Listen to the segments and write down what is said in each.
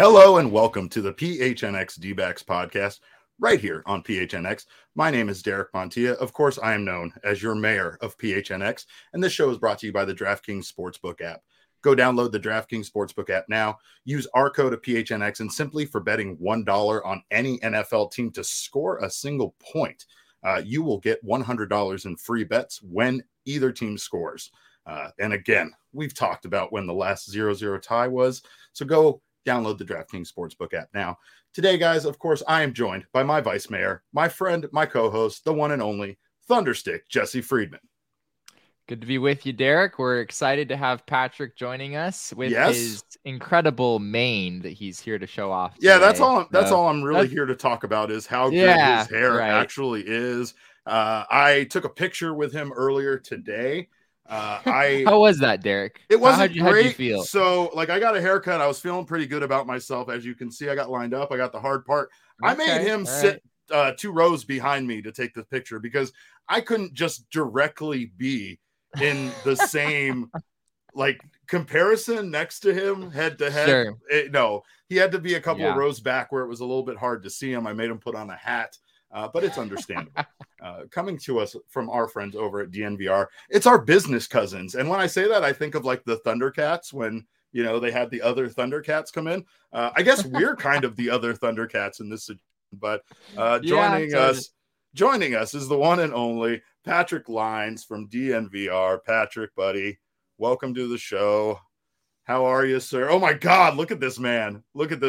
Hello and welcome to the PHNX D-backs podcast right here on PHNX. My name is Derek Montilla. Of course, I am known as your mayor of PHNX, and this show is brought to you by the DraftKings Sportsbook app. Go download the DraftKings Sportsbook app now. Use our code of PHNX, and simply for betting $1 on any NFL team to score a single point, you will get $100 in free bets when either team scores. And again, we've talked about when the last 0-0 tie was, so go download the DraftKings Sportsbook app now. Today, guys, of course, I am joined by my vice mayor, my friend, my co-host, the one and only Thunderstick, Jesse Friedman. Good to be with you, Derek. We're excited to have Patrick joining us with his incredible mane that he's here to show off today. Yeah, that's all I'm really here to talk about is how good his hair actually is. I took a picture with him earlier today. How was that, Derek? It wasn't great. How'd you feel? So, I got a haircut. I was feeling pretty good about myself. As you can see, I got lined up. I got the hard part. I made him sit 2 rows behind me to take the picture because I couldn't just directly be in the same comparison next to him head to head. Sure. No, he had to be a couple of rows back where it was a little bit hard to see him. I made him put on a hat. But it's understandable. Coming to us from our friends over at DNVR, it's our business cousins. And when I say that, I think of the Thundercats when, they had the other Thundercats come in. I guess we're kind of the other Thundercats in this situation. But joining us is the one and only Patrick Lines from DNVR. Patrick, buddy, welcome to the show. How are you, sir? Oh, my God, look at this man.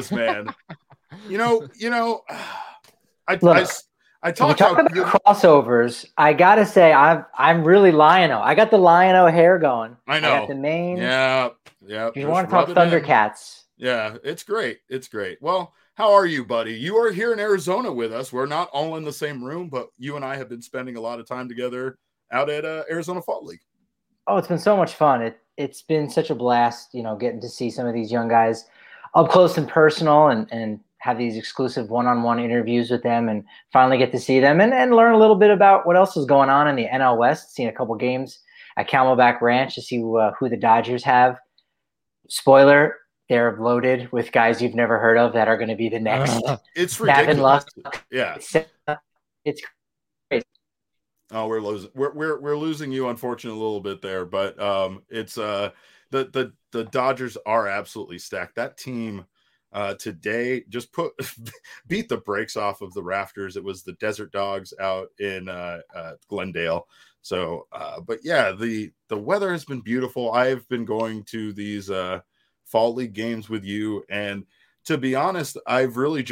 I talk about crossovers. I gotta say, I'm really Lion-O. I got the Lion-O hair going. I know. I got the mane. Yeah. You want to talk Thundercats? Yeah, it's great. Well, how are you, buddy? You are here in Arizona with us. We're not all in the same room, but you and I have been spending a lot of time together out at Arizona Fall League. Oh, it's been so much fun. It's been such a blast, getting to see some of these young guys up close and personal and have these exclusive one-on-one interviews with them and finally get to see them and learn a little bit about what else is going on in the NL West. Seen a couple games at Camelback Ranch to see who the Dodgers have. Spoiler, they're loaded with guys you've never heard of that are going to be the next. It's ridiculous. Yeah. It's crazy. Oh, we're losing you, unfortunately, a little bit there, but it's the Dodgers are absolutely stacked. That team today just beat the brakes off of the rafters. It was the Desert Dogs out in Glendale. So, but yeah, the weather has been beautiful. I've been going to these Fall League games with you, and to be honest, I've really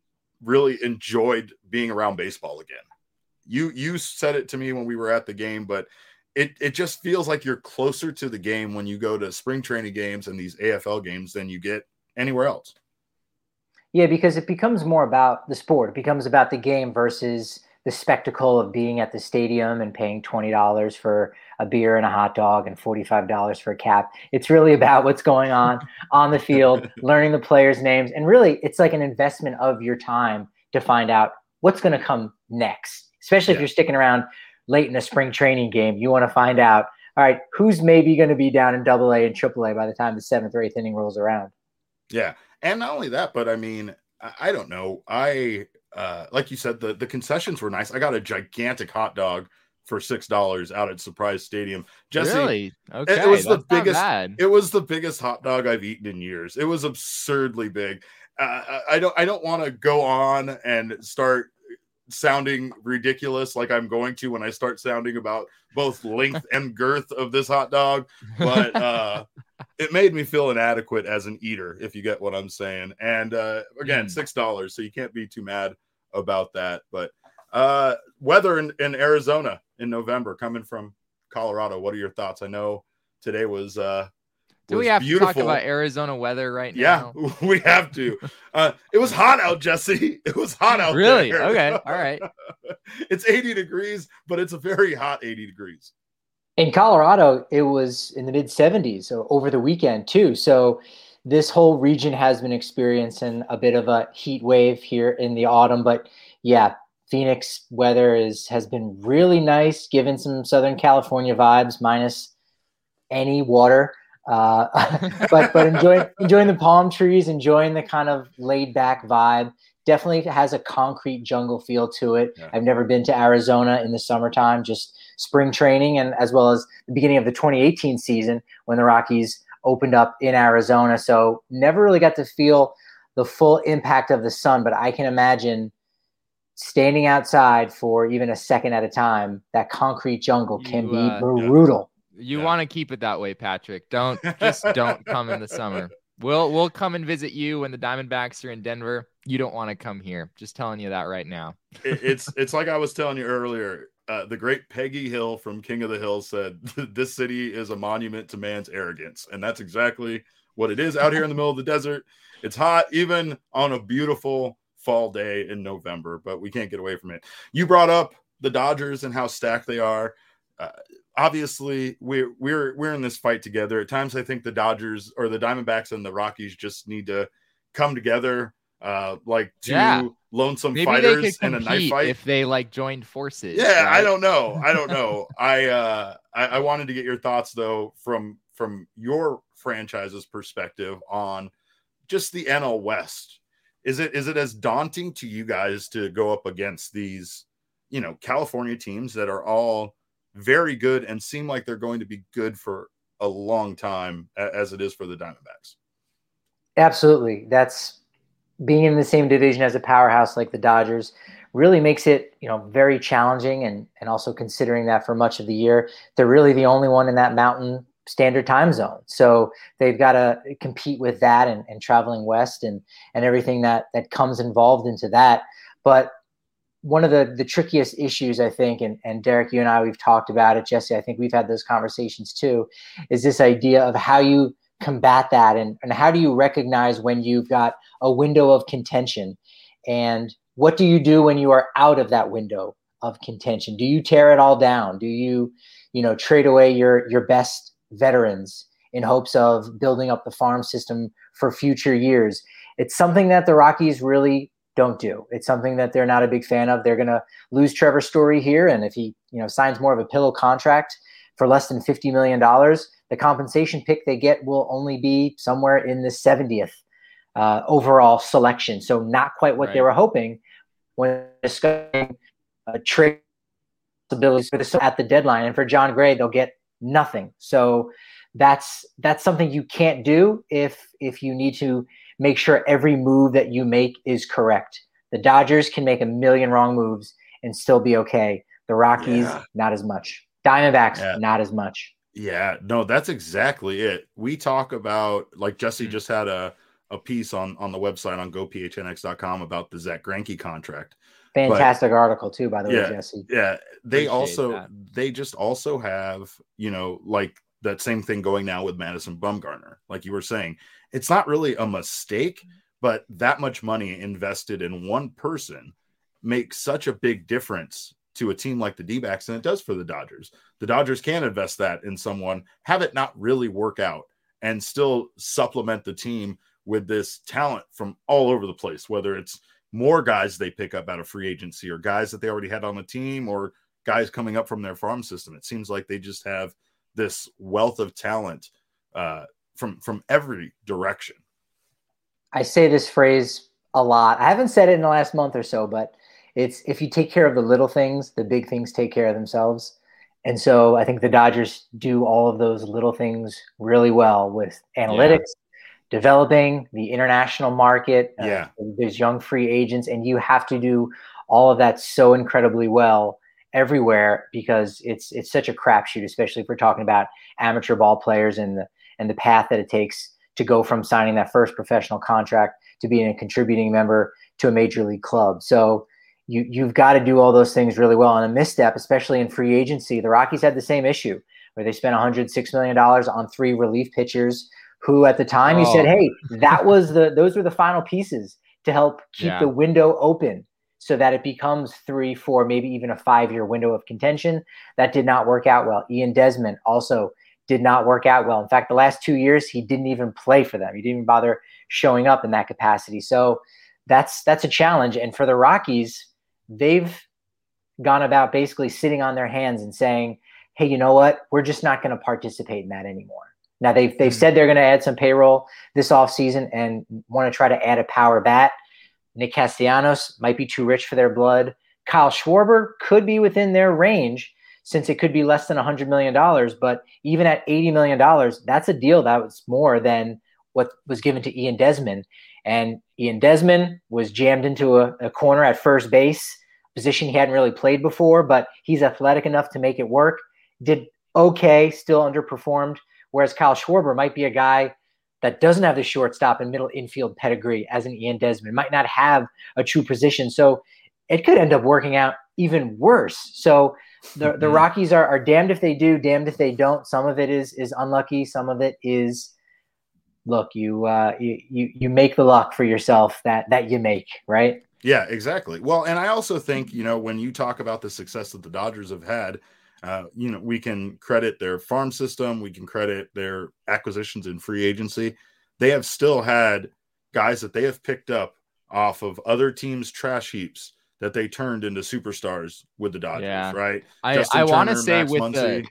enjoyed being around baseball again. You said it to me when we were at the game, but it just feels like you're closer to the game when you go to spring training games and these AFL games than you get anywhere else. Yeah, because it becomes more about the sport. It becomes about the game versus the spectacle of being at the stadium and paying $20 for a beer and a hot dog and $45 for a cap. It's really about what's going on the field, learning the players' names. And really, it's like an investment of your time to find out what's going to come next, especially if you're sticking around late in a spring training game. You want to find out, all right, who's maybe going to be down in AA and AAA by the time the 7th or 8th inning rolls around. Yeah. And not only that, but I mean, I don't know. Like you said, the concessions were nice. I got a gigantic hot dog for $6 out at Surprise Stadium. Jesse, really? Okay. It was the biggest hot dog I've eaten in years. It was absurdly big. I don't want to go on and start sounding ridiculous like I'm going to when I start sounding about both length and girth of this hot dog, but it made me feel inadequate as an eater, if you get what I'm saying. And again, $6, so you can't be too mad about that. But weather in Arizona in November, coming from Colorado, what are your thoughts? I know today was Do we have beautiful. To talk about Arizona weather right now? Yeah, we have to. It was hot out, Jesse. It was hot out really? there. Okay, all right. It's 80 degrees, but it's a very hot 80 degrees. In Colorado, it was in the mid-70s over the weekend, too. So this whole region has been experiencing a bit of a heat wave here in the autumn. But, yeah, Phoenix weather has been really nice, given some Southern California vibes, minus any water. But enjoying the palm trees, enjoying the kind of laid back vibe. Definitely has a concrete jungle feel to it. Yeah. I've never been to Arizona in the summertime, just spring training, and as well as the beginning of the 2018 season when the Rockies opened up in Arizona. So never really got to feel the full impact of the sun, but I can imagine standing outside for even a second at a time, that concrete jungle can be brutal. You want to keep it that way, Patrick. Don't come in the summer. We'll come and visit you when the Diamondbacks are in Denver. You don't want to come here. Just telling you that right now. It's like I was telling you earlier. The great Peggy Hill from King of the Hill said, "This city is a monument to man's arrogance," and that's exactly what it is out here in the middle of the desert. It's hot, even on a beautiful fall day in November, but we can't get away from it. You brought up the Dodgers and how stacked they are. Obviously, we're in this fight together. At times, I think the Dodgers or the Diamondbacks and the Rockies just need to come together, like two lonesome fighters in a knife fight. If they joined forces. Yeah, right? I don't know. I wanted to get your thoughts though from your franchise's perspective on just the NL West. Is it as daunting to you guys to go up against these, California teams that are all very good and seem like they're going to be good for a long time, as it is for the Diamondbacks? Absolutely. That's being in the same division as a powerhouse like the Dodgers really makes it, very challenging. And also considering that for much of the year, they're really the only one in that Mountain Standard Time zone. So they've got to compete with that and traveling west and everything that comes involved into that. But one of the trickiest issues, I think, and Derek, you and I, we've talked about it, Jesse, I think we've had those conversations too, is this idea of how you combat that and how do you recognize when you've got a window of contention, and what do you do when you are out of that window of contention? Do you tear it all down? Do you, trade away your best veterans in hopes of building up the farm system for future years? It's something that the Rockies really don't do. It's something that they're not a big fan of. They're going to lose Trevor Story here. And if he, signs more of a pillow contract for less than $50 million, the compensation pick they get will only be somewhere in the 70th overall selection. So not quite what they were hoping when discussing trade abilities at the deadline. And for John Gray, they'll get nothing. So that's something you can't do if you need to make sure every move that you make is correct. The Dodgers can make a million wrong moves and still be okay. The Rockies, not as much. Diamondbacks, not as much. Yeah, no, that's exactly it. We talk about, like Jesse just had a piece on the website on gophnx.com about the Zach Greinke contract. Fantastic article too, by the way, Jesse. Yeah, they just also have, that same thing going now with Madison Bumgarner. Like you were saying, it's not really a mistake, but that much money invested in one person makes such a big difference to a team like the D-backs than it does for the Dodgers. The Dodgers can invest that in someone, have it not really work out, and still supplement the team with this talent from all over the place, whether it's more guys they pick up out of free agency or guys that they already had on the team or guys coming up from their farm system. It seems like they just have this wealth of talent from every direction. I say this phrase a lot. I haven't said it in the last month or so, but it's, if you take care of the little things, the big things take care of themselves. And so I think the Dodgers do all of those little things really well with analytics, developing the international market, there's young free agents, and you have to do all of that so incredibly well everywhere because it's such a crapshoot, especially if we're talking about amateur ball players and the path that it takes to go from signing that first professional contract to being a contributing member to a major league club. So you've got to do all those things really well. And a misstep, especially in free agency, the Rockies had the same issue where they spent $106 million on 3 relief pitchers who at the time you said, hey, those were the final pieces to help keep the window open so that it becomes 3, 4, maybe even a 5-year window of contention. That did not work out well. Ian Desmond also did not work out well. In fact, the last 2 years, he didn't even play for them. He didn't even bother showing up in that capacity. So that's a challenge. And for the Rockies, they've gone about basically sitting on their hands and saying, hey, you know what? We're just not going to participate in that anymore. Now they've said they're going to add some payroll this offseason and want to try to add a power bat. Nick Castellanos might be too rich for their blood. Kyle Schwarber could be within their range since it could be less than $100 million. But even at $80 million, that's a deal that was more than what was given to Ian Desmond. And Ian Desmond was jammed into a corner at first base, position he hadn't really played before, but he's athletic enough to make it work. Did okay, still underperformed. Whereas Kyle Schwarber might be a guy that doesn't have the shortstop and middle infield pedigree as an Ian Desmond, might not have a true position. So it could end up working out even worse. So the Rockies are damned if they do, damned if they don't. Some of it is unlucky. Some of it is, look, you make the luck for yourself that you make, right? Yeah, exactly. Well, and I also think, when you talk about the success that the Dodgers have had, we can credit their farm system. We can credit their acquisitions in free agency. They have still had guys that they have picked up off of other teams' trash heaps that they turned into superstars with the Dodgers, right? I want to say Max with Muncy.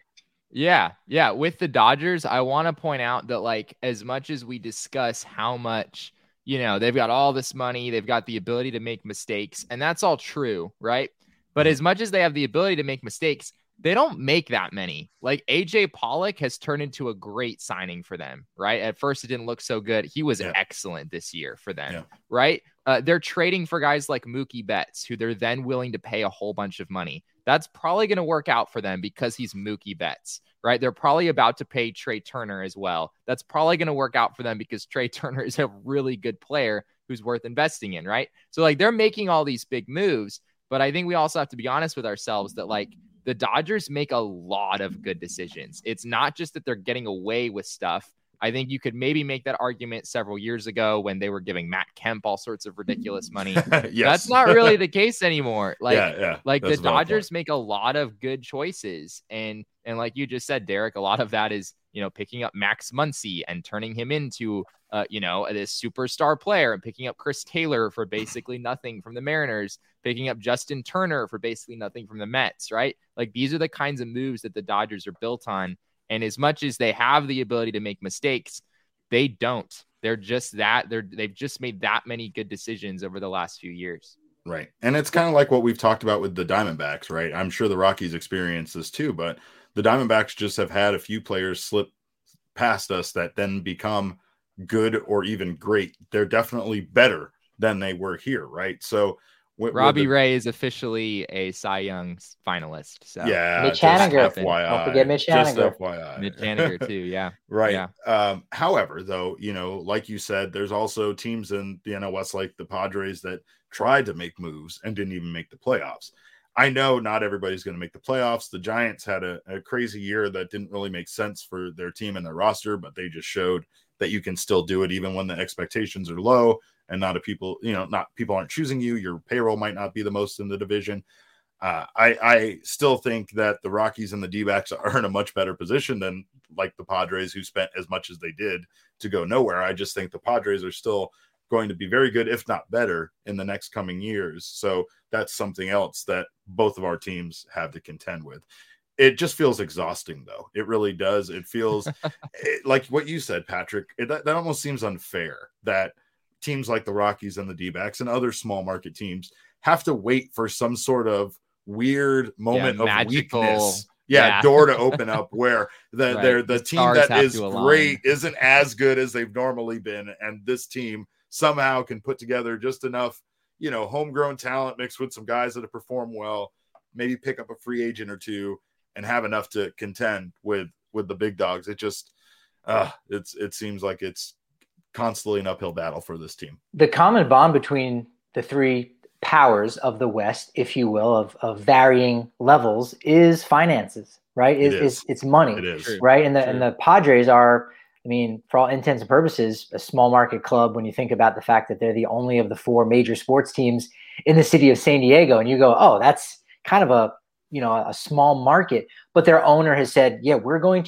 With the Dodgers, I want to point out that, like, as much as we discuss how much, they've got all this money, they've got the ability to make mistakes, and that's all true, right? But as much as they have the ability to make mistakes, they don't make that many. Like, AJ Pollock has turned into a great signing for them, right? At first, it didn't look so good. He was excellent this year for them, right? They're trading for guys like Mookie Betts, who they're then willing to pay a whole bunch of money. That's probably going to work out for them because he's Mookie Betts, right? They're probably about to pay Trey Turner as well. That's probably going to work out for them because Trey Turner is a really good player who's worth investing in, right? So, like, they're making all these big moves, but I think we also have to be honest with ourselves that, like, the Dodgers make a lot of good decisions. It's not just that they're getting away with stuff. I think you could maybe make that argument several years ago when they were giving Matt Kemp all sorts of ridiculous money. That's not really the case anymore. Like the Dodgers make a lot of good choices. And like you just said, Derek, a lot of that is, picking up Max Muncy and turning him into, this superstar player, and picking up Chris Taylor for basically nothing from the Mariners, picking up Justin Turner for basically nothing from the Mets, right? Like, these are the kinds of moves that the Dodgers are built on. And as much as they have the ability to make mistakes, they don't. They're just that. They've just made that many good decisions over the last few years. Right. And it's kind of like what we've talked about with the Diamondbacks, right? I'm sure the Rockies experience this too, but the Diamondbacks just have had a few players slip past us that then become good or even great. They're definitely better than they were here, right? So Robbie Ray is officially a Cy Young finalist. So yeah, Mitch Haniger. FYI. Don't forget Mitch Haniger. Just FYI. Mitch Haniger too, yeah. Right. Yeah. However, though, like you said, there's also teams in the NL West like the Padres that tried to make moves and didn't even make the playoffs. I know not everybody's going to make the playoffs. The Giants had a crazy year that didn't really make sense for their team and their roster, but they just showed that you can still do it even when the expectations are low and not people aren't choosing you. Your payroll might not be the most in the division. I still think that the Rockies and the D-backs are in a much better position than like the Padres, who spent as much as they did to go nowhere. I just think the Padres are still going to be very good, if not better, in the next coming years. So that's something else that both of our teams have to contend with. It just feels exhausting, though. It really does. It feels like what you said, Patrick. That almost seems unfair that teams like the Rockies and the D-backs and other small market teams have to wait for some sort of weird moment of magical weakness. Door to open up where the team that is great isn't as good as they've normally been, and this team somehow can put together just enough, homegrown talent mixed with some guys that have performed well, maybe pick up a free agent or two, and have enough to contend with the big dogs. It just it seems like it's constantly an uphill battle for this team. The common bond between the three powers of the West, if you will, of varying levels is finances, right? It's money. It is. Right. And the Padres are, I mean, for all intents and purposes, a small market club when you think about the fact that they're the only of the four major sports teams in the city of San Diego. And you go, oh, that's kind of a small market, but their owner has said, yeah, we're going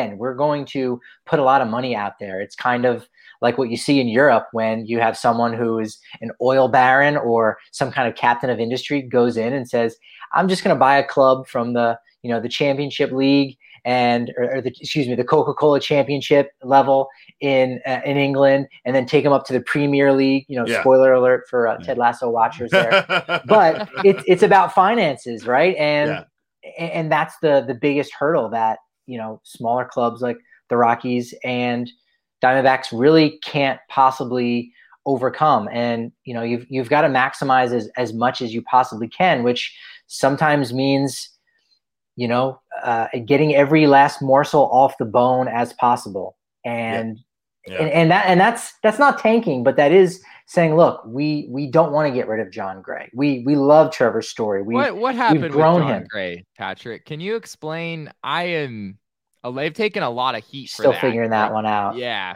to put a lot of money out there. It's kind of like what you see in Europe when you have someone who is an oil baron or some kind of captain of industry goes in and says, I'm just going to buy a club from the championship league or the Coca-Cola Championship level in England, and then take them up to the Premier League. Spoiler alert for Ted Lasso watchers there. But it's about finances, right? And that's the biggest hurdle that smaller clubs like the Rockies and Diamondbacks really can't possibly overcome. And you've got to maximize as much as you possibly can, which sometimes means getting every last morsel off the bone as possible. And that's not tanking, but that is saying, look, we don't want to get rid of Jon Gray. We love Trevor Story. What happened with Jon Gray, Patrick? Can you explain? They've taken a lot of heat for that. Still figuring that one out. Yeah.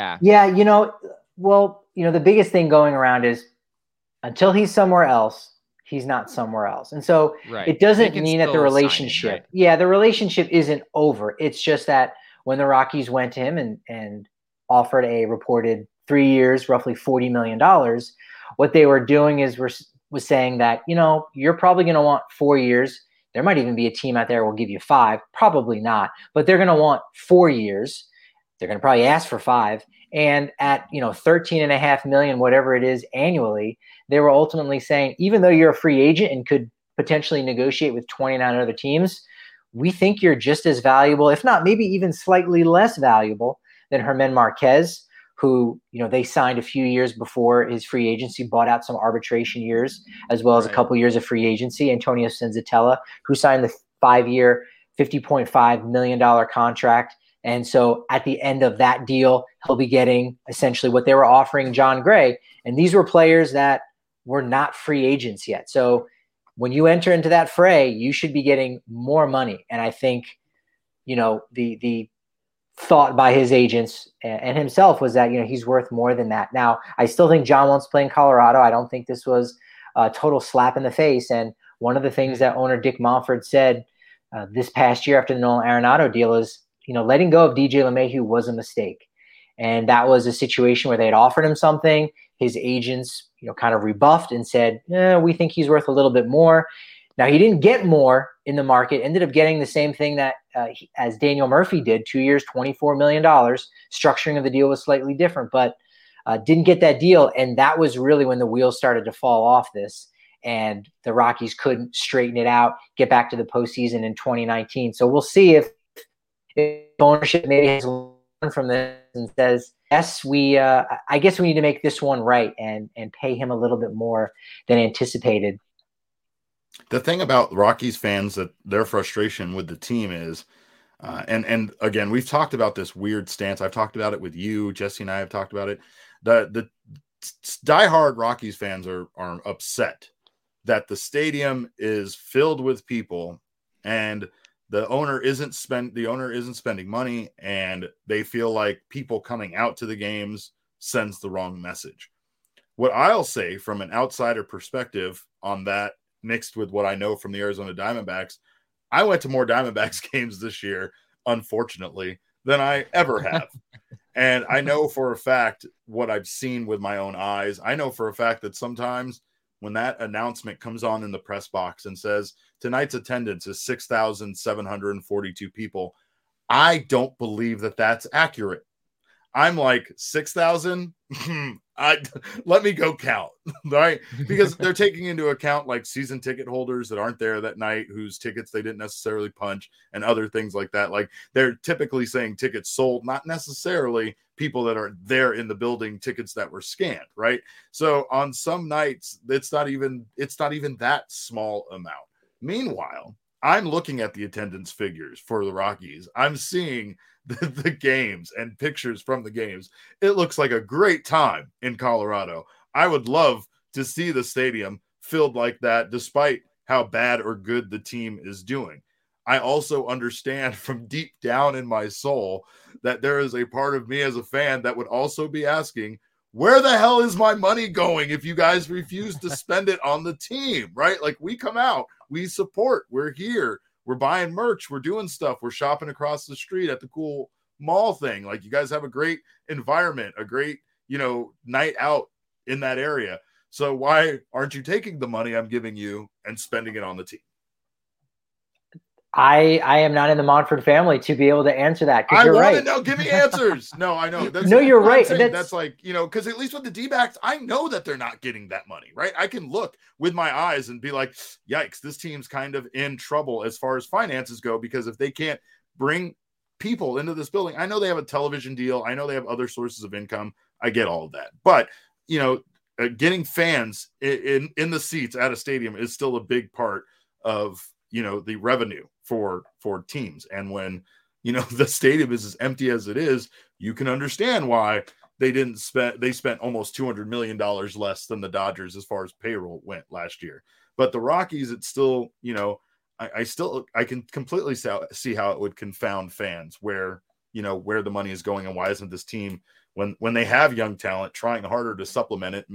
Well, the biggest thing going around is until he's somewhere else, he's not somewhere else. And so it doesn't mean that the relationship, the relationship isn't over. It's just that when the Rockies went to him and offered a reported 3 years, roughly $40 million, what they were doing was saying that, you're probably going to want 4 years. There might even be a team out there who will give you 5, probably not, but they're going to want 4 years. They're going to probably ask for 5. And at, $13.5 million, whatever it is annually, they were ultimately saying, even though you're a free agent and could potentially negotiate with 29 other teams, we think you're just as valuable, if not maybe even slightly less valuable than Germán Marquez, who, they signed a few years before his free agency, bought out some arbitration years, as well as a couple years of free agency. Antonio Senzatella, who signed the 5-year, $50.5 million contract. And so at the end of that deal, he'll be getting essentially what they were offering Jon Gray. And these were players that were not free agents yet. So when you enter into that fray, you should be getting more money. And I think, the thought by his agents and himself was that, he's worth more than that. Now, I still think Jon wants to play in Colorado. I don't think this was a total slap in the face. And one of the things that owner Dick Monfort said this past year after the Nolan Arenado deal is, letting go of DJ LeMahieu was a mistake. And that was a situation where they had offered him something. His agents, kind of rebuffed and said, we think he's worth a little bit more. Now, he didn't get more in the market, ended up getting the same thing that as Daniel Murphy did, 2 years, $24 million. Structuring of the deal was slightly different, but didn't get that deal. And that was really when the wheels started to fall off this. And the Rockies couldn't straighten it out, get back to the postseason in 2019. So we'll see if ownership maybe has learned from this and says, yes, I guess we need to make this one right and pay him a little bit more than anticipated. The thing about Rockies fans, that their frustration with the team is, and again, we've talked about this weird stance. I've talked about it with you, Jesse, and I have talked about it. The diehard Rockies fans are upset that the stadium is filled with people and the owner isn't spending money, and they feel like people coming out to the games sends the wrong message. What I'll say from an outsider perspective on that, mixed with what I know from the Arizona Diamondbacks, I went to more Diamondbacks games this year, unfortunately, than I ever have. And I know for a fact what I've seen with my own eyes. I know for a fact that sometimes when that announcement comes on in the press box and says tonight's attendance is 6,742 people, I don't believe that that's accurate. I'm like 6,000. Let me go count, right? Because they're taking into account like season ticket holders that aren't there that night, whose tickets they didn't necessarily punch, and other things like that. Like they're typically saying tickets sold, not necessarily people that are there in the building, tickets that were scanned, right? So on some nights, it's not even that small amount. Meanwhile, I'm looking at the attendance figures for the Rockies. I'm seeing the games and pictures from the games. It looks like a great time in Colorado. I would love to see the stadium filled like that, despite how bad or good the team is doing. I also understand from deep down in my soul that there is a part of me as a fan that would also be asking, where the hell is my money going if you guys refuse to spend it on the team, right? Like, we come out, we support, we're here, we're buying merch, we're doing stuff, we're shopping across the street at the cool mall thing. Like, you guys have a great environment, a great, night out in that area. So why aren't you taking the money I'm giving you and spending it on the team? I am not in the Monfort family to be able to answer that. I want right. to know. Give me answers. No, I know. No, you're right. That's like, because at least with the D-backs, I know that they're not getting that money, right? I can look with my eyes and be like, yikes, this team's kind of in trouble as far as finances go, because if they can't bring people into this building, I know they have a television deal. I know they have other sources of income. I get all of that. But, getting fans in the seats at a stadium is still a big part of, the revenue for teams. And when, the stadium is as empty as it is, you can understand why they spent almost $200 million less than the Dodgers as far as payroll went last year. But the Rockies, it's still, I can completely see how it would confound fans where the money is going, and why isn't this team, when they have young talent, trying harder to supplement it,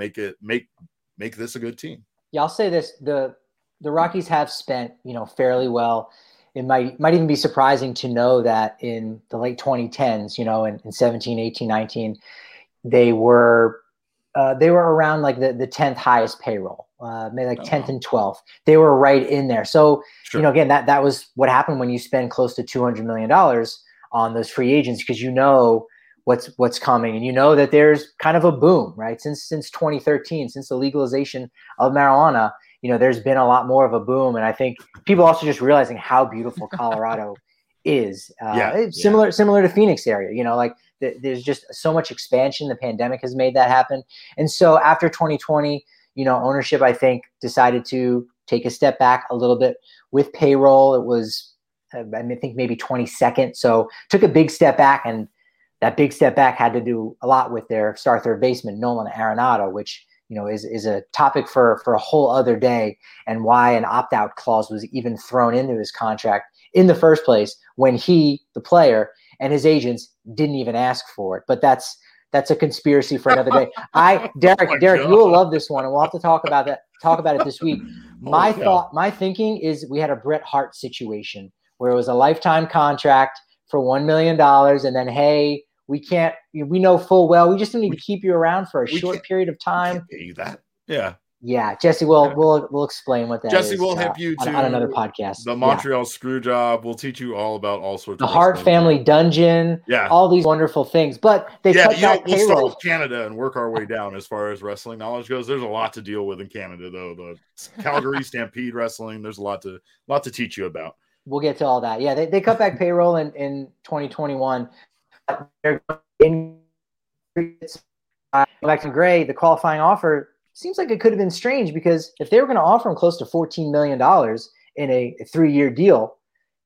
make this a good team. Yeah, I'll say this: the Rockies have spent, fairly well. It might even be surprising to know that in the late 2010s, in 17, 18, 19, they were around like the 10th highest payroll, maybe like 10th and 12th. They were right in there. So, sure. Again, that was what happened when you spend close to $200 million on those free agents, because what's coming, and that there's kind of a boom, right? Since 2013, since the legalization of marijuana, there's been a lot more of a boom. And I think people also just realizing how beautiful Colorado is. Similar to Phoenix area, there's just so much expansion. The pandemic has made that happen. And so after 2020, ownership, I think, decided to take a step back a little bit with payroll. It was, I think, maybe 22nd. So took a big step back, and that big step back had to do a lot with their star third baseman, Nolan Arenado, which is a topic for a whole other day, and why an opt-out clause was even thrown into his contract in the first place when he, the player, and his agents didn't even ask for it. But that's a conspiracy for another day. Derek, you will love this one, and we'll have to talk about it this week. My thinking is we had a Bret Hart situation where it was a lifetime contract for $1 million, and then, hey, we know full well we just need to keep you around for a short period of time. We can't pay you that. Yeah. Yeah, Jesse, we'll explain what that is. Jesse will hip you to on another podcast. The Montreal screw job. We'll teach you all about all sorts of the Hart family dungeon. Yeah, all these wonderful things. But they cut back payroll. We'll start with Canada and work our way down as far as wrestling knowledge goes. There's a lot to deal with in Canada, though. The Calgary Stampede wrestling. There's a lot to teach you about. We'll get to all that. Yeah, they cut back payroll in 2021. They're back to Gray. The qualifying offer seems like it could have been strange, because if they were going to offer him close to $14 million in a 3-year deal,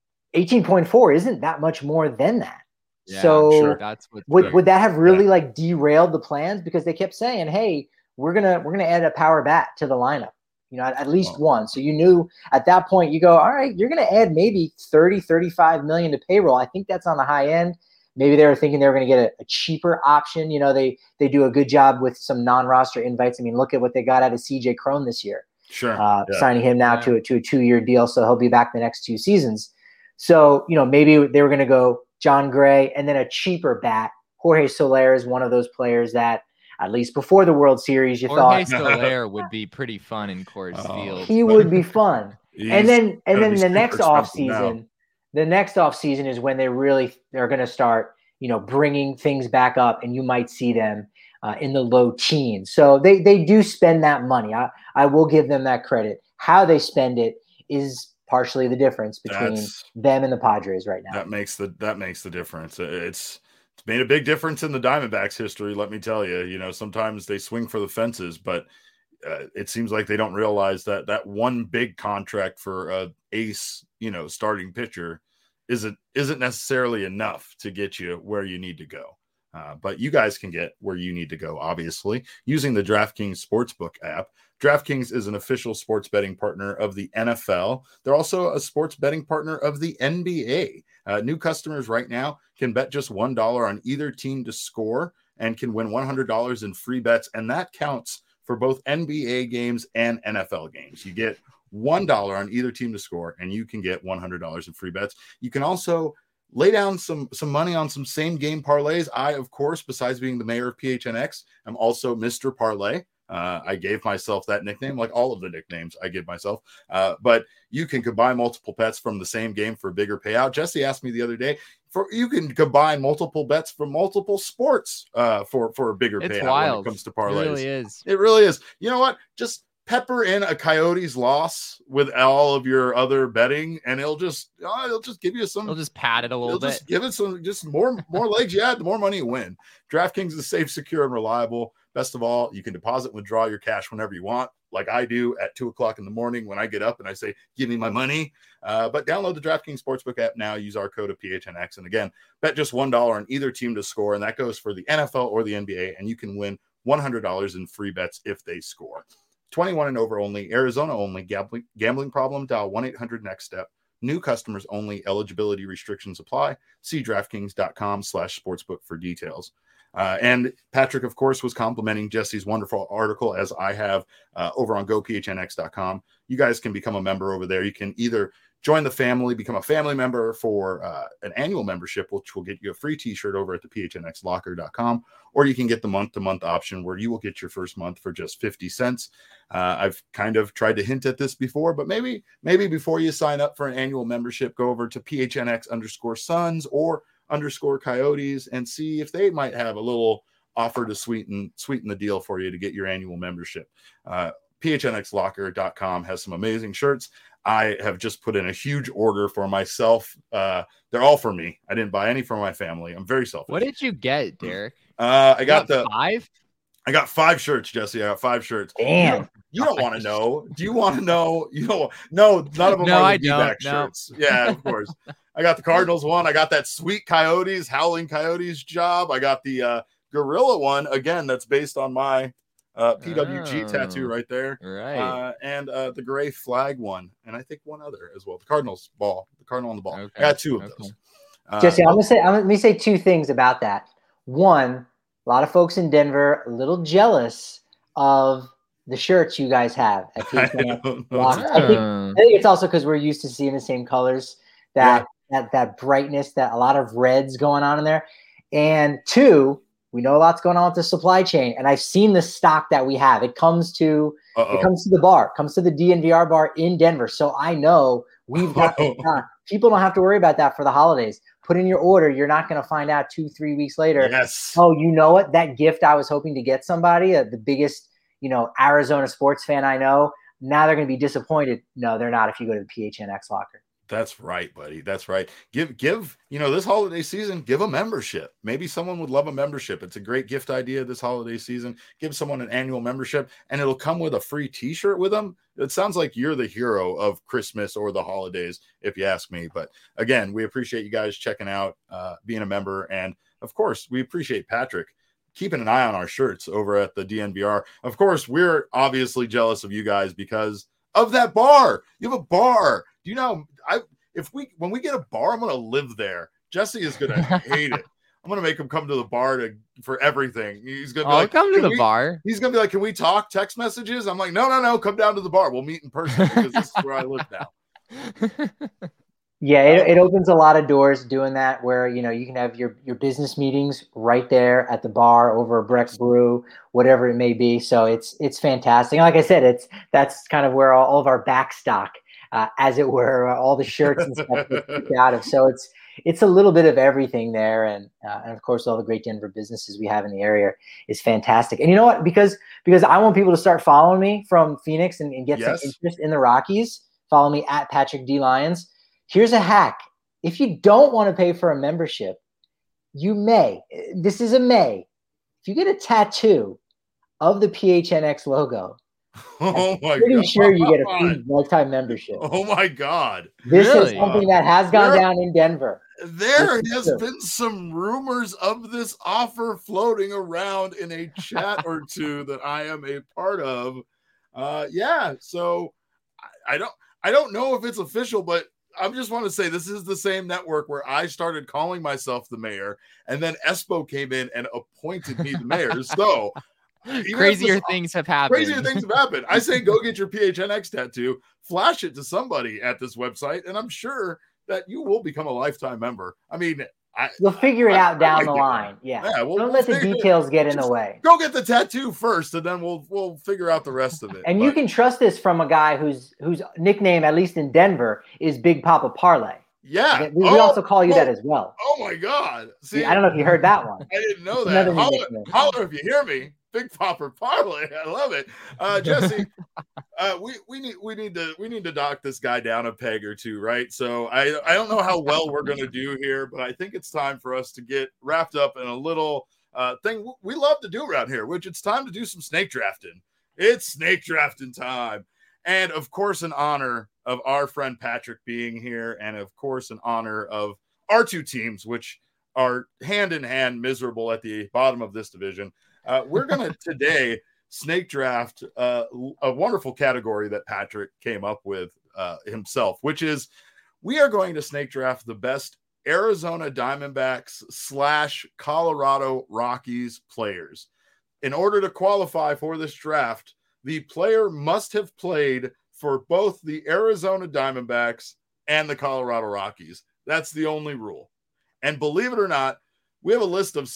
18.4 isn't that much more than that. Yeah, so sure. That's would that have really derailed the plans? Because they kept saying, hey, we're gonna add a power bat to the lineup, at least one. So you knew at that point, you go, all right, you're going to add maybe 30, 35 million to payroll. I think that's on the high end. Maybe they were thinking they were going to get a cheaper option. They do a good job with some non-roster invites. I mean, look at what they got out of CJ Cron this year. Sure. Signing him now to a 2-year deal. So he'll be back the next 2 seasons. So, maybe they were going to go Jon Gray and then a cheaper bat. Jorge Soler is one of those players that, at least before the World Series, Jorge Soler would be pretty fun in Coors Field. He would be fun. And then the next offseason, the next offseason is when they're going to start, bringing things back up, and you might see them in the low teens. So they do spend that money. I will give them that credit. How they spend it is partially the difference between them and the Padres right now. That makes the difference. It's made a big difference in the Diamondbacks' history, let me tell you. Sometimes they swing for the fences, but it seems like they don't realize that one big contract for a ace, starting pitcher isn't necessarily enough to get you where you need to go. But you guys can get where you need to go, obviously, using the DraftKings Sportsbook app. DraftKings is an official sports betting partner of the NFL. They're also a sports betting partner of the NBA. New customers right now can bet just $1 on either team to score and can win $100 in free bets, and that counts for both NBA games and NFL games. You get $1 on either team to score, and you can get $100 in free bets. You can also lay down some money on some same game parlays. I, of course, besides being the mayor of PHNX, I'm also Mr. Parlay. I gave myself that nickname, like all of the nicknames I give myself. But you can combine multiple bets from the same game for a bigger payout. Jesse asked me the other day, you can combine multiple bets from multiple sports for a bigger payout wild. when it comes to parlays. It really is. It really is. You know what? Just pepper in a Coyotes loss with all of your other betting, and it'll just give you some. It'll just pad it a little bit. Just give it some, just more legs you add, the more money you win. DraftKings is safe, secure, and reliable. Best of all, you can deposit and withdraw your cash whenever you want, like I do at 2:00 in the morning when I get up and I say, "Give me my money." But download the DraftKings Sportsbook app now. Use our code of PHNX, and again, bet just $1 on either team to score, and that goes for the NFL or the NBA, and you can win $100 in free bets if they score. 21 and over only, Arizona only. Gambling problem? Dial 1-800-NEXT-STEP. New customers only. Eligibility restrictions apply. See DraftKings.com/sportsbook for details. And Patrick, of course, was complimenting Jesse's wonderful article, as I have over on GoPHNX.com. You guys can become a member over there. You can either join the family, become a family member for an annual membership, which will get you a free t-shirt over at the PHNXlocker.com, or you can get the month-to-month option where you will get your first month for just 50 cents. I've kind of tried to hint at this before, but maybe before you sign up for an annual membership, go over to PHNX_Suns or _Coyotes and see if they might have a little offer to sweeten the deal for you to get your annual membership. PHNXlocker.com has some amazing shirts. I have just put in a huge order for myself. They're all for me. I didn't buy any for my family. I'm very selfish. What did you get, Derek? I got 5. I got 5 shirts, Jesse. I got 5 shirts. Damn. You don't want to know. Do you want to know? You don't. No, none of them are the D-back shirts. Yeah, of course. I got the Cardinals one. I got that sweet Coyotes, Howling Coyotes job. I got the Gorilla one, again, that's based on my PWG tattoo right there. Right. And the gray flag one. And I think one other as well. The Cardinals ball. The Cardinal on the ball. Okay. I got 2 of those. Jesse, let me say 2 things about that. One, a lot of folks in Denver a little jealous of the shirts you guys have at PHNX. I think it's also because we're used to seeing the same colors, that brightness, that a lot of reds going on in there. And 2, we know a lot's going on with the supply chain, and I've seen the stock that we have. It comes to the bar, comes to the DNVR bar in Denver. So I know we've got the stock. People don't have to worry about that for the holidays. Put in your order. You're not going to find out 2-3 weeks later. Yes. Oh, you know what? That gift I was hoping to get somebody, the biggest, Arizona sports fan I know. Now they're going to be disappointed. No, they're not. If you go to the PHNX locker. That's right, buddy. That's right. Give, this holiday season, give a membership. Maybe someone would love a membership. It's a great gift idea this holiday season. Give someone an annual membership, and it'll come with a free t-shirt with them. It sounds like you're the hero of Christmas or the holidays, if you ask me. But again, we appreciate you guys checking out, being a member. And of course, we appreciate Patrick keeping an eye on our shirts over at the DNVR. Of course, we're obviously jealous of you guys because of that bar. You have a bar. Do you know, when we get a bar, I'm going to live there. Jesse is going to hate it. I'm going to make him come to the bar for everything. He's going to be like, come to the bar. He's going to be like, can we talk text messages? I'm like, no, come down to the bar. We'll meet in person because this is where I live now. Yeah, it opens a lot of doors doing that, where you can have your business meetings right there at the bar over a Breck Brew, whatever it may be. So it's fantastic. And like I said, that's kind of where all of our back stock, as it were, all the shirts and stuff get out of. So it's a little bit of everything there, and of course all the great Denver businesses we have in the area is fantastic. And you know what? Because I want people to start following me from Phoenix and get some interest in the Rockies. Follow me at Patrick D. Lyons. Here's a hack. If you don't want to pay for a membership, you may. This is a may. If you get a tattoo of the PHNX logo, I'm pretty sure you get a free lifetime membership. Oh my God. This is something that has gone down in Denver. There has been some rumors of this offer floating around in a chat or two that I am a part of. So I don't know if it's official, but I just want to say this is the same network where I started calling myself the mayor, and then Espo came in and appointed me the mayor. So crazier things have happened. I say go get your PHNX tattoo, flash it to somebody at this website, and I'm sure that you will become a lifetime member. I mean, You'll figure it out down the line. Yeah. Don't let the details get in the way. Go get the tattoo first, and then we'll figure out the rest of it. And you can trust this from a guy whose nickname, at least in Denver, is Big Papa Parlay. Yeah. We also call you that as well. Oh my God. See, I don't know if you heard that one. I didn't know that. Holler if you hear me. Big Papa Parlay. I love it. Jesse, we need to knock this guy down a peg or two, right? So I don't know how well we're going to do here, but I think it's time for us to get wrapped up in a little thing we love to do around here, which it's time to do some snake drafting. It's snake drafting time. And of course, in honor of our friend Patrick being here, and of course, in honor of our two teams, which are hand in hand miserable at the bottom of this division, we're going to today snake draft a wonderful category that Patrick came up with himself, which is we are going to snake draft the best Arizona Diamondbacks / Colorado Rockies players. In order to qualify for this draft, the player must have played for both the Arizona Diamondbacks and the Colorado Rockies. That's the only rule. And believe it or not, we have a list of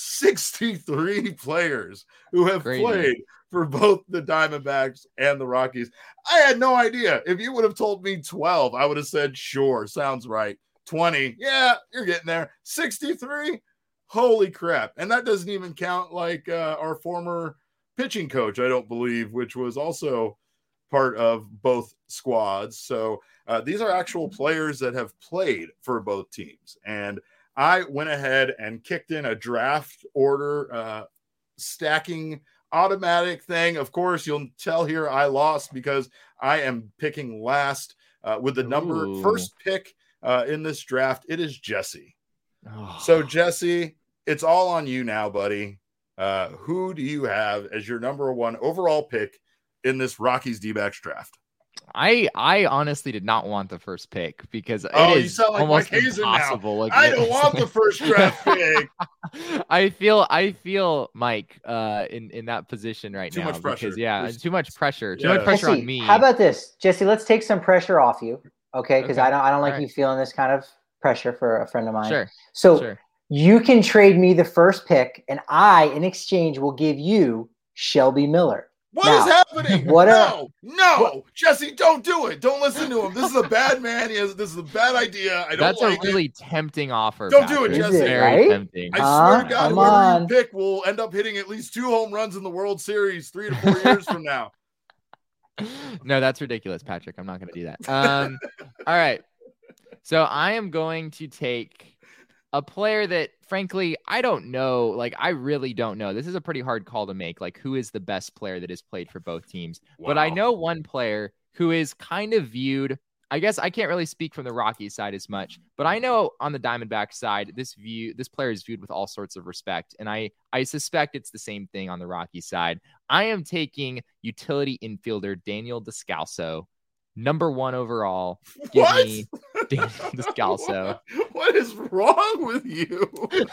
63 players who have played for both the Diamondbacks and the Rockies. I had no idea. If you would have told me 12, I would have said, sure, sounds right. 20, yeah, you're getting there. 63, holy crap. And that doesn't even count like our former pitching coach, I don't believe, which was also part of both squads. So these are actual players that have played for both teams. And I went ahead and kicked in a draft order stacking automatic thing. Of course, you'll tell here I lost because I am picking last with the first pick in this draft. It is Jesse. Oh. So Jesse, it's all on you now, buddy. Who do you have as your number one overall pick in this Rockies D-backs draft? I honestly did not want the first pick because it is almost impossible. I don't want the first draft pick. I feel Mike in that position right now. Too much pressure. Because, too much pressure. Too much pressure Jesse, on me. How about this, Jesse? Let's take some pressure off you, okay? Because I don't like you feeling this kind of pressure for a friend of mine. Sure. So you can trade me the first pick, and I, in exchange, will give you Shelby Miller. What is happening? No, Jesse, don't do it. Don't listen to him. This is a bad man. This is a bad idea. That's a really tempting offer. Don't do it, Jesse. Very tempting. I swear to God, whoever you pick will end up hitting at least 2 home runs in the World Series 3 to 4 years from now. No, that's ridiculous, Patrick. I'm not going to do that. All right. So I am going to take a player that, frankly, I don't know. Like, I really don't know. This is a pretty hard call to make. Like, who is the best player that has played for both teams? Wow. But I know one player who is kind of viewed. I guess I can't really speak from the Rockies side as much, but I know on the Diamondback side, this player is viewed with all sorts of respect. And I suspect it's the same thing on the Rockies side. I am taking utility infielder Daniel Descalso, number 1 overall. Give me Daniel Descalso. What is wrong with you?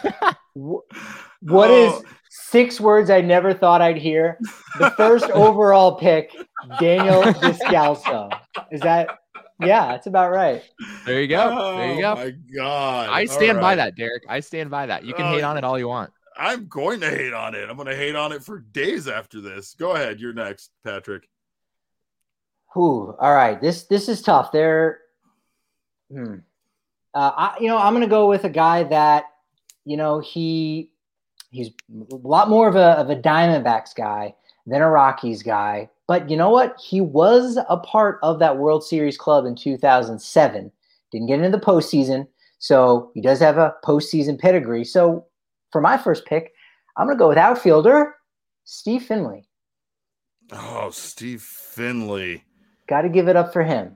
What is 6 words I never thought I'd hear? The first overall pick, Daniel Descalso. Is that? Yeah, that's about right. There you go. There you go. Oh my God. I stand by that, Derek. I stand by that. You can hate on it all you want. I'm going to hate on it. I'm going to hate on it for days after this. Go ahead. You're next, Patrick. All right. This is tough. I'm going to go with a guy that, he's a lot more of a Diamondbacks guy than a Rockies guy. But you know what? He was a part of that World Series club in 2007. Didn't get into the postseason, so he does have a postseason pedigree. So for my first pick, I'm going to go with outfielder Steve Finley. Oh, Steve Finley. Got to give it up for him.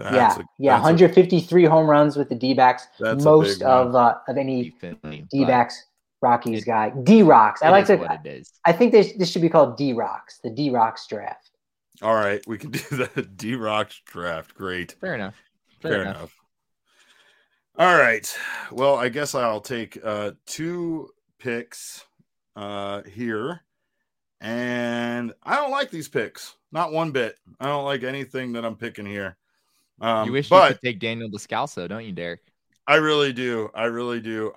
153 home runs with the D-backs. Most of any D-backs Rockies guy. D-Rocks. I think this should be called D-Rocks. The D-Rocks draft. All right, we can do the D-Rocks draft. Great. Fair enough. Fair enough. All right. Well, I guess I'll take 2 picks here. And I don't like these picks. Not one bit. I don't like anything that I'm picking here. You wish you could take Daniel Descalso, don't you, Derek? I really do. I really do.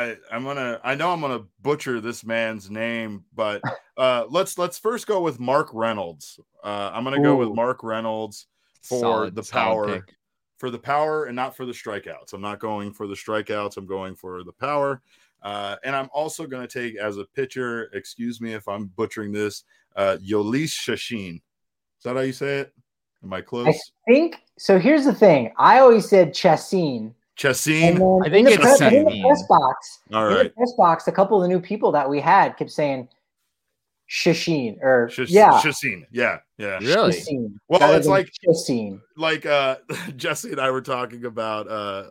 I know I'm gonna butcher this man's name, but let's first go with Mark Reynolds. I'm gonna go with Mark Reynolds for the power. Pick. For the power and not for the strikeouts. I'm not going for the strikeouts. I'm going for the power. And I'm also going to take as a pitcher, excuse me if I'm butchering this, Yolis Chachin. Is that how you say it? Am I close? I think so. Here's the thing. I always said Chacin. Chacin? I think it's in the press box. All right. In the press box, a couple of the new people that we had kept saying Chachin or Chacin. Yeah. Really? Chacin. Well, it's like Chacin. Like Jesse and I were talking about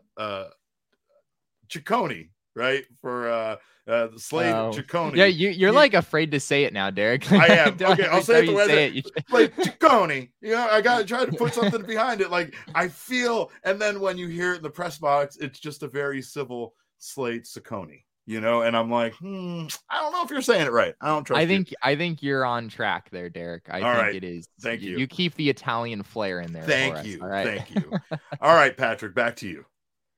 Ciccone, right? For Slade Ciccone. Yeah, you're like afraid to say it now, Derek. I am. Okay, I'll say it the way that like Ciccone. You know, I gotta try to put something behind it. Like I feel, and then when you hear it in the press box, it's just a very civil Slade Ciccone. You know, and I'm like, I don't know if you're saying it right. I don't trust. I think you're on track there, Derek. I think it is. Thank you. You keep the Italian flair in there. Thank you. All right. Thank you. All right, Patrick, back to you.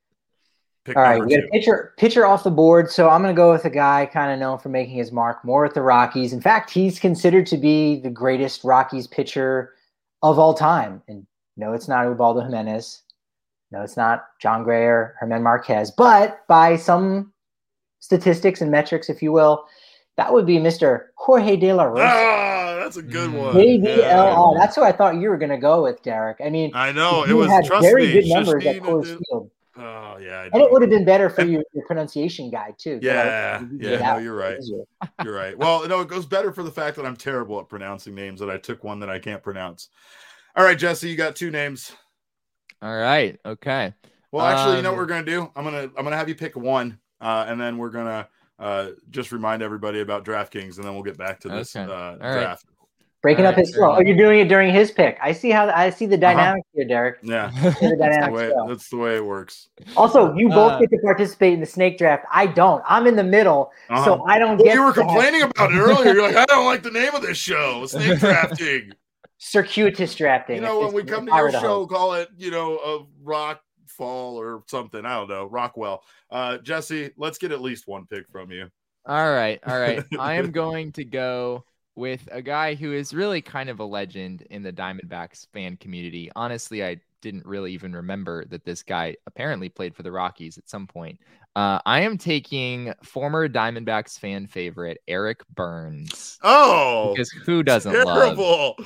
All right, we got a pitcher off the board, so I'm going to go with a guy kind of known for making his mark more at the Rockies. In fact, he's considered to be the greatest Rockies pitcher of all time. And no, it's not Ubaldo Jimenez. No, it's not John Gray or Germán Marquez. But by some statistics and metrics, if you will, that would be Mr. Jorge De La Rosa. Ah, that's a good one. JDLR. Yeah. That's who I thought you were going to go with, Derek. I mean, I know it was very good numbers at Coors Field. Oh yeah, and it would have been better for your pronunciation guide too. Yeah, no, you're right. You're right. Well, no, it goes better for the fact that I'm terrible at pronouncing names. That I took one that I can't pronounce. All right, Jesse, you got two names. All right. Okay. Well, actually, you know what we're gonna do? I'm gonna have you pick one, and then we're gonna just remind everybody about DraftKings, and then we'll get back to this draft. Right. Breaking up his flow. Oh, you're doing it during his pick. I see the dynamic here, Derek. Yeah, that's the way it works. Also, you both get to participate in the snake draft. I don't. I'm in the middle, so I don't get. You were complaining about it earlier. You're like, I don't like the name of this show, snake drafting. Circuitous drafting. You know, when we come to your show, call it, a rock fall or something. I don't know, Rockwell. Jesse, let's get at least one pick from you. All right. I am going to go with a guy who is really kind of a legend in the Diamondbacks fan community. Honestly, I didn't really even remember that this guy apparently played for the Rockies at some point. I am taking former Diamondbacks fan favorite Eric Burns. Oh, because who doesn't terrible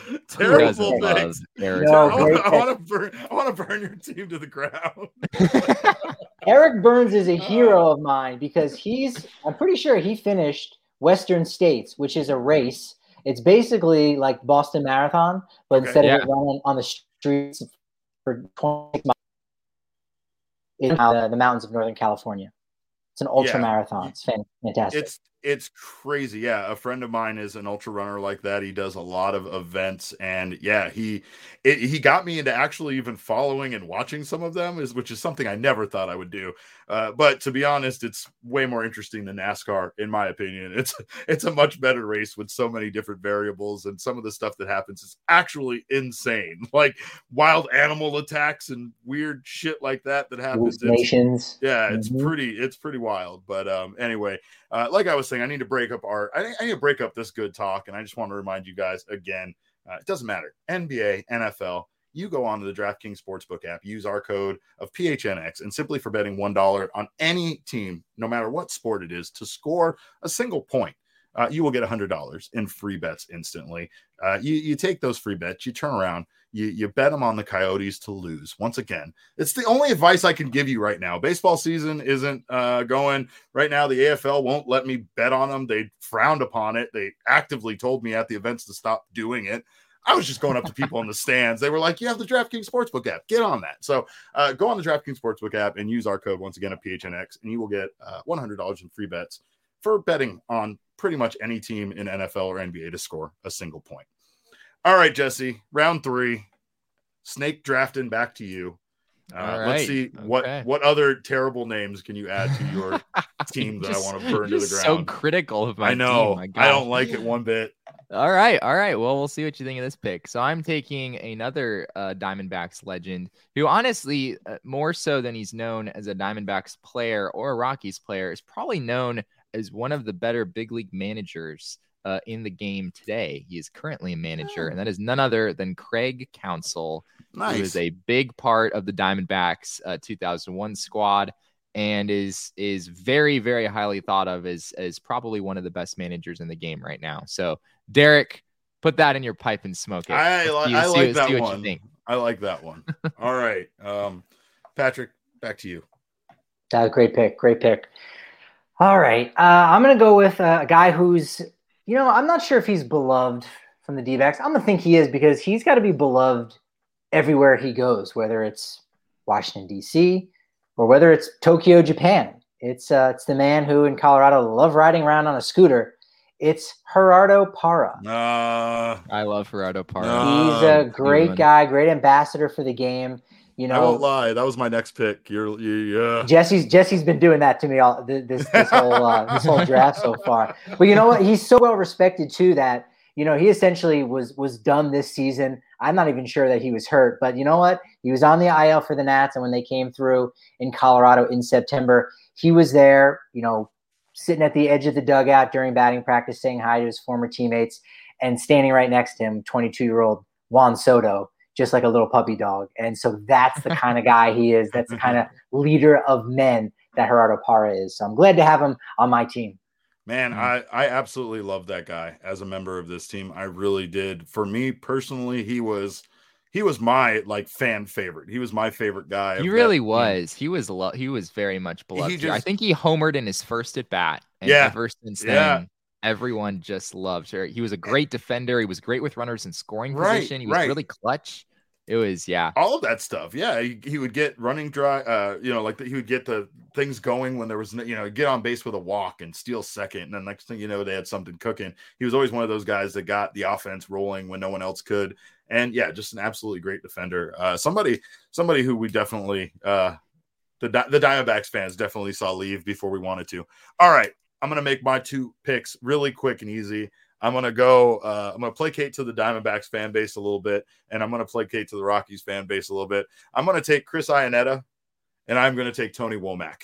love Eric? No, I want to burn your team to the ground. Eric Burns is a hero of mine because I'm pretty sure he finished Western States, which is a race. It's basically like Boston Marathon, but instead of running on the streets for 26 miles in the mountains of Northern California. It's an ultra marathon. It's fantastic. It's crazy. Yeah. A friend of mine is an ultra runner like that. He does a lot of events, and he got me into actually even following and watching some of them, which is something I never thought I would do. But to be honest, it's way more interesting than NASCAR, in my opinion. It's a much better race with so many different variables, and some of the stuff that happens is actually insane, like wild animal attacks and weird shit like that happens. It's pretty wild. But anyway, like I was saying, I need to break up this good talk, and I just want to remind you guys again, it doesn't matter, NBA, NFL. You go on to the DraftKings Sportsbook app, use our code of PHNX, and simply for betting $1 on any team, no matter what sport it is, to score a single point, you will get $100 in free bets instantly. You take those free bets, you turn around, you bet them on the Coyotes to lose. Once again, it's the only advice I can give you right now. Baseball season isn't going right now. The AFL won't let me bet on them. They frowned upon it. They actively told me at the events to stop doing it. I was just going up to people in the stands. They were like, you have the DraftKings Sportsbook app. Get on that. So go on the DraftKings Sportsbook app and use our code once again at PHNX, and you will get $100 in free bets for betting on pretty much any team in NFL or NBA to score a single point. All right, Jesse, round 3, snake drafting, back to you. Let's see what other terrible names can you add to your team that I want to burn to the ground. So critical of my I know. team. I don't like it one bit. All right. Well, we'll see what you think of this pick. So I'm taking another Diamondbacks legend who honestly, more so than he's known as a Diamondbacks player or a Rockies player, is probably known as one of the better big league managers in the game today. He is currently a manager, and that is none other than Craig Counsell, who is a big part of the Diamondbacks 2001 squad and is very, very highly thought of as probably one of the best managers in the game right now. So Derek, put that in your pipe and smoke it. I like that one. All right. Patrick, back to you. Great pick. All right. I'm going to go with a guy who's, I'm not sure if he's beloved from the D-backs. I'm going to think he is because he's got to be beloved everywhere he goes, whether it's Washington, D.C., or whether it's Tokyo, Japan. It's the man who in Colorado love riding around on a scooter. It's Gerardo Parra. I love Gerardo Parra. He's a great guy, great ambassador for the game. I won't lie, that was my next pick. Jesse's been doing that to me all this whole draft so far. But you know what? He's so well respected too that he essentially was done this season. I'm not even sure that he was hurt, but you know what? He was on the IL for the Nats, and when they came through in Colorado in September, he was there, sitting at the edge of the dugout during batting practice, saying hi to his former teammates, and standing right next to him, 22-year-old Juan Soto, just like a little puppy dog. And so that's the kind of guy he is. That's the kind of leader of men that Gerardo Parra is. So I'm glad to have him on my team. Man, I absolutely love that guy as a member of this team. I really did. For me personally, he was my fan favorite. He was my favorite guy. He really was. He was very much beloved. I think he homered in his first at bat. And ever since then, everyone just loved her. He was a great defender. He was great with runners in scoring position. He was really clutch. It was, all of that stuff. Yeah, he would get running dry. He would get the things going when there was, get on base with a walk and steal second, and then next thing you know, they had something cooking. He was always one of those guys that got the offense rolling when no one else could, and just an absolutely great defender. Somebody who we definitely the Diamondbacks fans definitely saw leave before we wanted to. All right, I'm gonna make my two picks really quick and easy. I'm going to placate to the Diamondbacks fan base a little bit, and I'm going to placate to the Rockies fan base a little bit. I'm going to take Chris Iannetta, and I'm going to take Tony Womack.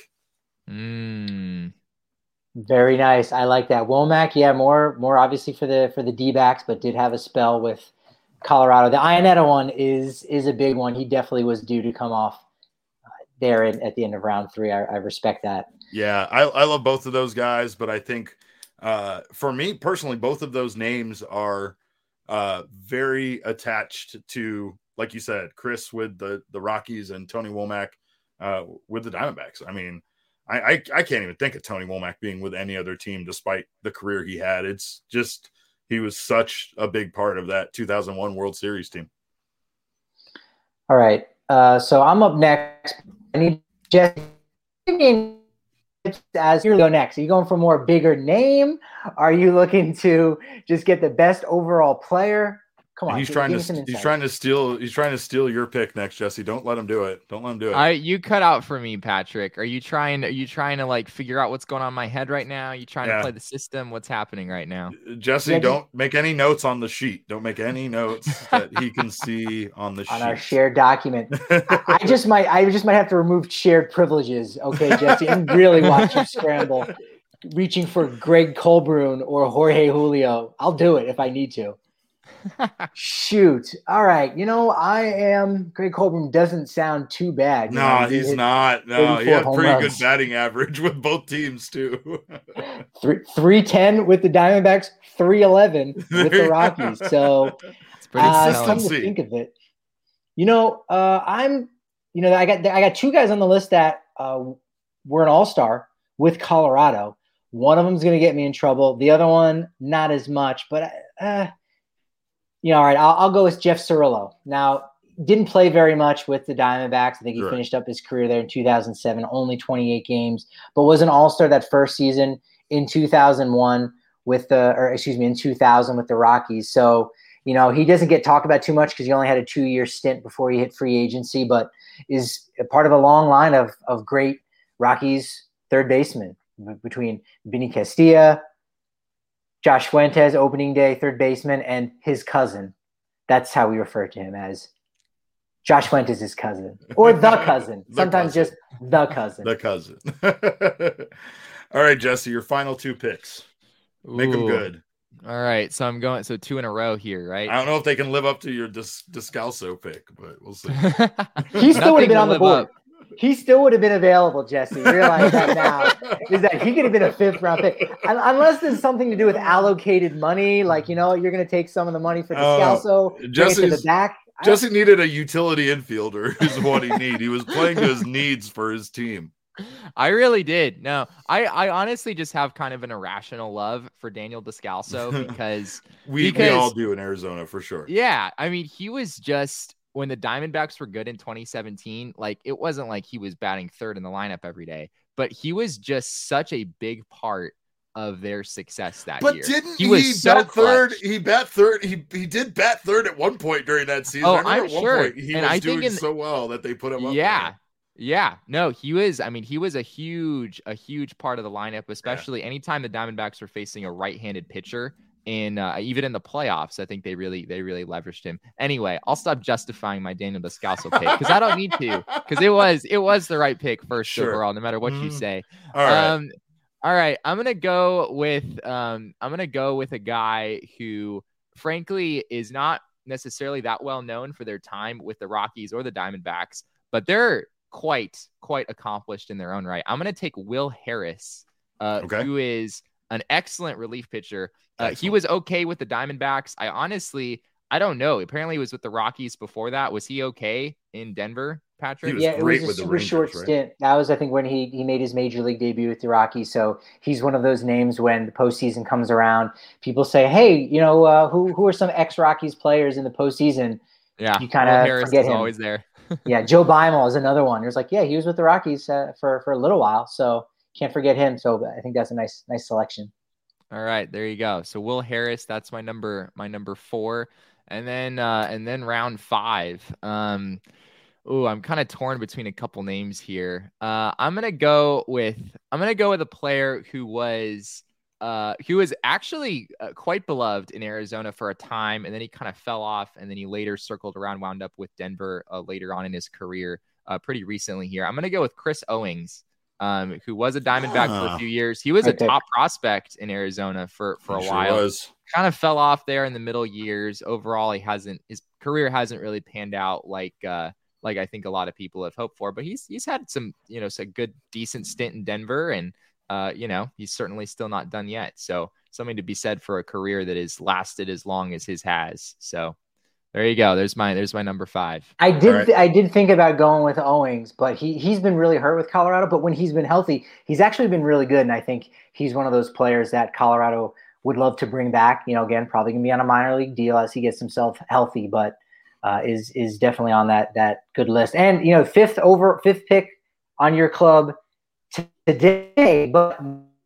Very nice. I like that. Womack, more obviously for the D-backs, but did have a spell with Colorado. The Iannetta one is a big one. He definitely was due to come off there at the end of round 3. I respect that. Yeah, I love both of those guys, but I think for me personally, both of those names are very attached to, like you said, Chris with the Rockies and Tony Womack with the Diamondbacks. I mean, I can't even think of Tony Womack being with any other team despite the career he had. It's just he was such a big part of that 2001 World Series team. All right. So I'm up next. I need Jesse. As you go next, are you going for more bigger name? Are you looking to just get the best overall player? Come on, he's trying to steal your pick next, Jesse. Don't let him do it. You cut out for me, Patrick. Are you trying to figure out what's going on in my head right now? Are you trying to play the system? What's happening right now? Jesse, don't make any notes on the sheet. Don't make any notes that he can see on the sheet. On our shared document. I just might have to remove shared privileges. Okay, Jesse, and really watch you scramble, reaching for Greg Colbrun or Jorge Julio. I'll do it if I need to. Shoot. All right. Greg Colbrun doesn't sound too bad. No, he's not. No, he had pretty good batting average with both teams too. 310 with the Diamondbacks, 311 with the Rockies. So it's pretty come to think of it. I got two guys on the list that were an all-star with Colorado. One of them is going to get me in trouble. The other one, not as much, but all right, I'll go with Jeff Cirillo. Now, didn't play very much with the Diamondbacks. I think he finished up his career there in 2007, only 28 games, but was an all-star that first season in 2001 in 2000 with the Rockies. So, he doesn't get talked about too much because he only had a 2-year stint before he hit free agency, but is a part of a long line of great Rockies third basemen between Vinny Castilla, Josh Fuentes, opening day third baseman, and his cousin. That's how we refer to him, as Josh Fuentes' his cousin, or the cousin. Sometimes just the cousin. The cousin. All right, Jesse, your final 2 picks. Make them good. All right, so I'm going 2 in a row here, right? I don't know if they can live up to your Descalso pick, but we'll see. He still would have been on the board. He still would have been available, Jesse. Realize that now is that he could have been a 5th round pick, unless there's something to do with allocated money. Like, you're going to take some of the money for Descalso, bring it to the back. Jesse needed a utility infielder is what he needed. He was playing to his needs for his team. I really did. No, I honestly just have kind of an irrational love for Daniel Descalso because we all do in Arizona for sure. Yeah. I mean, he was just, when the Diamondbacks were good in 2017, like, it wasn't like he was batting 3rd in the lineup every day, but he was just such a big part of their success that year. But didn't he bat 3rd? He bat 3rd. He did bat 3rd at one point during that season. Oh, I'm sure. He was doing so well that they put him up there. Yeah. No, he was a huge part of the lineup, especially anytime the Diamondbacks were facing a right-handed pitcher. In even in the playoffs, I think they really leveraged him. Anyway, I'll stop justifying my Daniel Descalso pick because I don't need to, because it was the right pick first overall, no matter what you say. All right. I'm gonna go with a guy who, frankly, is not necessarily that well known for their time with the Rockies or the Diamondbacks, but they're quite accomplished in their own right. I'm gonna take Will Harris, who is an excellent relief pitcher. He was okay with the Diamondbacks. I don't know. Apparently he was with the Rockies before that. Was he okay in Denver, Patrick? Yeah, it was a super short stint. That was, I think, when he made his major league debut with the Rockies. So he's one of those names when the postseason comes around, people say, hey, who are some ex-Rockies players in the postseason? Yeah, you kind of forget him. Always there. Yeah, Joe Beimel is another one. There's he was with the Rockies for a little while, so can't forget him. So I think that's a nice selection. All right, there you go. So Will Harris, that's my number 4, and then round 5. I'm kind of torn between a couple names here. I'm gonna go with a player who was actually quite beloved in Arizona for a time, and then he kind of fell off, and then he later circled around, wound up with Denver later on in his career, pretty recently here. I'm gonna go with Chris Owings. Who was a Diamondback for a few years. He was a top prospect in Arizona for a while. Kind of fell off there in the middle years. Overall, his career hasn't really panned out like I think a lot of people have hoped for. But he's had some a good decent stint in Denver, and he's certainly still not done yet. So something to be said for a career that has lasted as long as his has. So there you go. There's my number 5. I did think about going with Owings, but he's been really hurt with Colorado. But when he's been healthy, he's actually been really good. And I think he's one of those players that Colorado would love to bring back. Again, probably gonna be on a minor league deal as he gets himself healthy, but is definitely on that good list. And 5th pick on your club today, but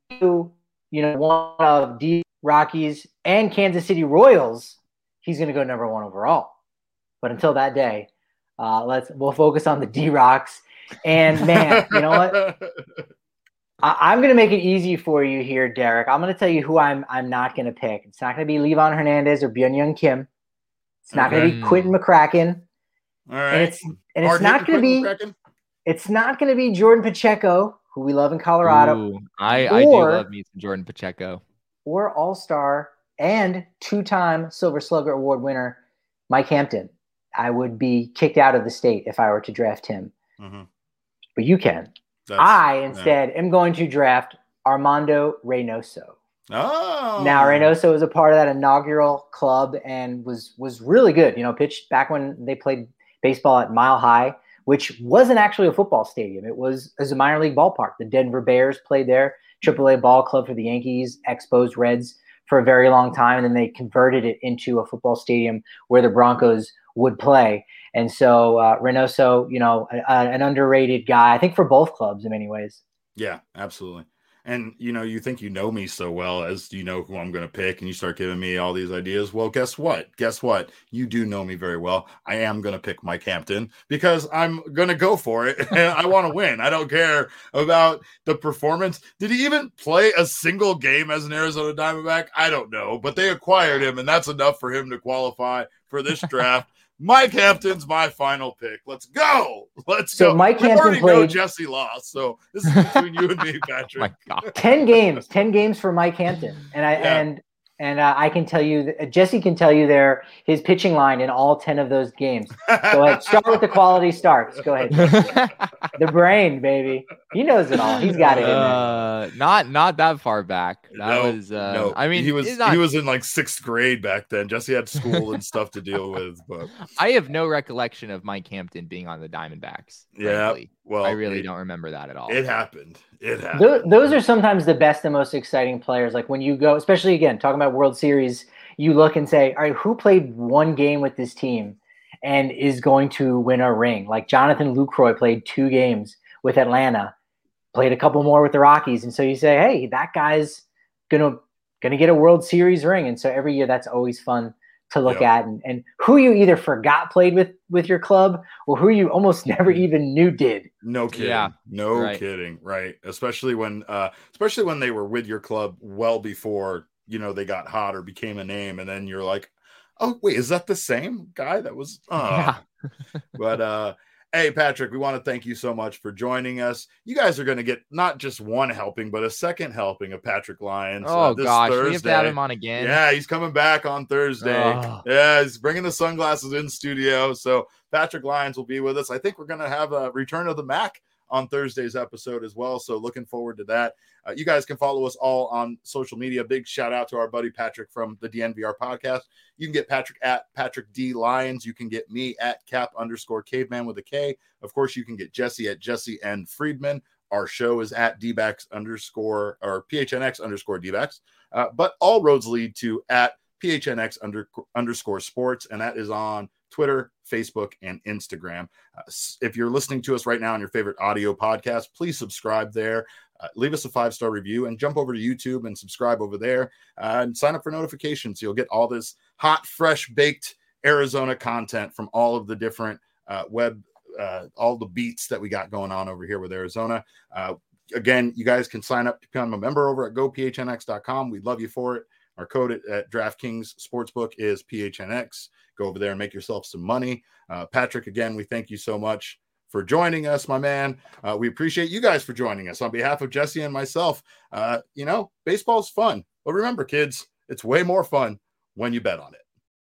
one of the Rockies and Kansas City Royals. He's going to go number 1 overall. But until that day, we'll focus on the D-Rocks. And, man, you know what? I'm going to make it easy for you here, Derek. I'm going to tell you who I'm not going to pick. It's not going to be Levon Hernandez or Byung-Hyun Kim. It's not going to be Quentin McCracken. All right. And it's not going to be McCracken? It's not going to be Jordan Pacheco, who we love in Colorado. Ooh, I do love me some Jordan Pacheco. Or All-Star and 2-time Silver Slugger Award winner Mike Hampton. I would be kicked out of the state if I were to draft him. Mm-hmm. But you can. I instead am going to draft Armando Reynoso. Oh. Now Reynoso was a part of that inaugural club and was really good. Pitched back when they played baseball at Mile High, which wasn't actually a football stadium. It was a minor league ballpark. The Denver Bears played there, AAA ball club for the Yankees, Expos, Reds for a very long time, and then they converted it into a football stadium where the Broncos would play. And so Reynoso, an underrated guy, I think, for both clubs in many ways. Yeah, absolutely. And, you think you know me so well as you know who I'm going to pick, and you start giving me all these ideas. Well, guess what? You do know me very well. I am going to pick Mike Hampton because I'm going to go for it. And I want to win. I don't care about the performance. Did he even play a single game as an Arizona Diamondback? I don't know, but they acquired him, and that's enough for him to qualify for this draft. Mike Hampton's my final pick. Let's go. So Mike Hampton played. Jesse lost, so this is between you and me, Patrick. My God. 10 games for Mike Hampton, and I can tell you, Jesse can tell you his pitching line in all 10 of those games. Go ahead, start with the quality starts. Go ahead, the brain, baby. He knows it all. He's got it in there. Not that far back. No. I mean, he was in like 6th grade back then. Jesse had school and stuff to deal with, but I have no recollection of Mike Hampton being on the Diamondbacks. Yeah, frankly. Well, I really don't remember that at all. It happened. Those are sometimes the best and most exciting players. Like when you go, especially again, talking about World Series, you look and say, all right, who played one game with this team and is going to win a ring? Like Jonathan Lucroy played 2 games with Atlanta, played a couple more with the Rockies. And so you say, hey, that guy's gonna get a World Series ring. And so every year that's always fun to look at, and who you either forgot played with your club or who you almost never even knew did. No kidding. Yeah, kidding. Right. Especially when they were with your club well before, they got hot or became a name. And then you're like, oh, wait, is that the same guy that was? But hey, Patrick, we want to thank you so much for joining us. You guys are going to get not just one helping, but a second helping of Patrick Lyons. Oh, this gosh. Thursday. We have to have him on again. Yeah, he's coming back on Thursday. Oh. Yeah, he's bringing the sunglasses in studio. So Patrick Lyons will be with us. I think we're going to have a return of the Mac on Thursday's episode as well. So looking forward to that. You guys can follow us all on social media. Big shout out to our buddy Patrick from the DNVR podcast. You can get Patrick at Patrick D Lyons. You can get me at Cap_Caveman with a K. Of course, you can get Jesse at Jesse N Friedman. Our show is at PHNX_DBacks. But all roads lead to at PHNX_sports. And that is on Twitter, Facebook, and Instagram. If you're listening to us right now on your favorite audio podcast, please subscribe there. Leave us a 5-star review and jump over to YouTube and subscribe over there and sign up for notifications. You'll get all this hot, fresh, baked Arizona content from all of the different all the beats that we got going on over here with Arizona. Again, you guys can sign up to become a member over at gophnx.com. We'd love you for it. Our code at DraftKings Sportsbook is PHNX. Go over there and make yourself some money. Patrick, again, we thank you so much for joining us, my man. We appreciate you guys for joining us. On behalf of Jesse and myself, baseball's fun. But remember, kids, it's way more fun when you bet on it.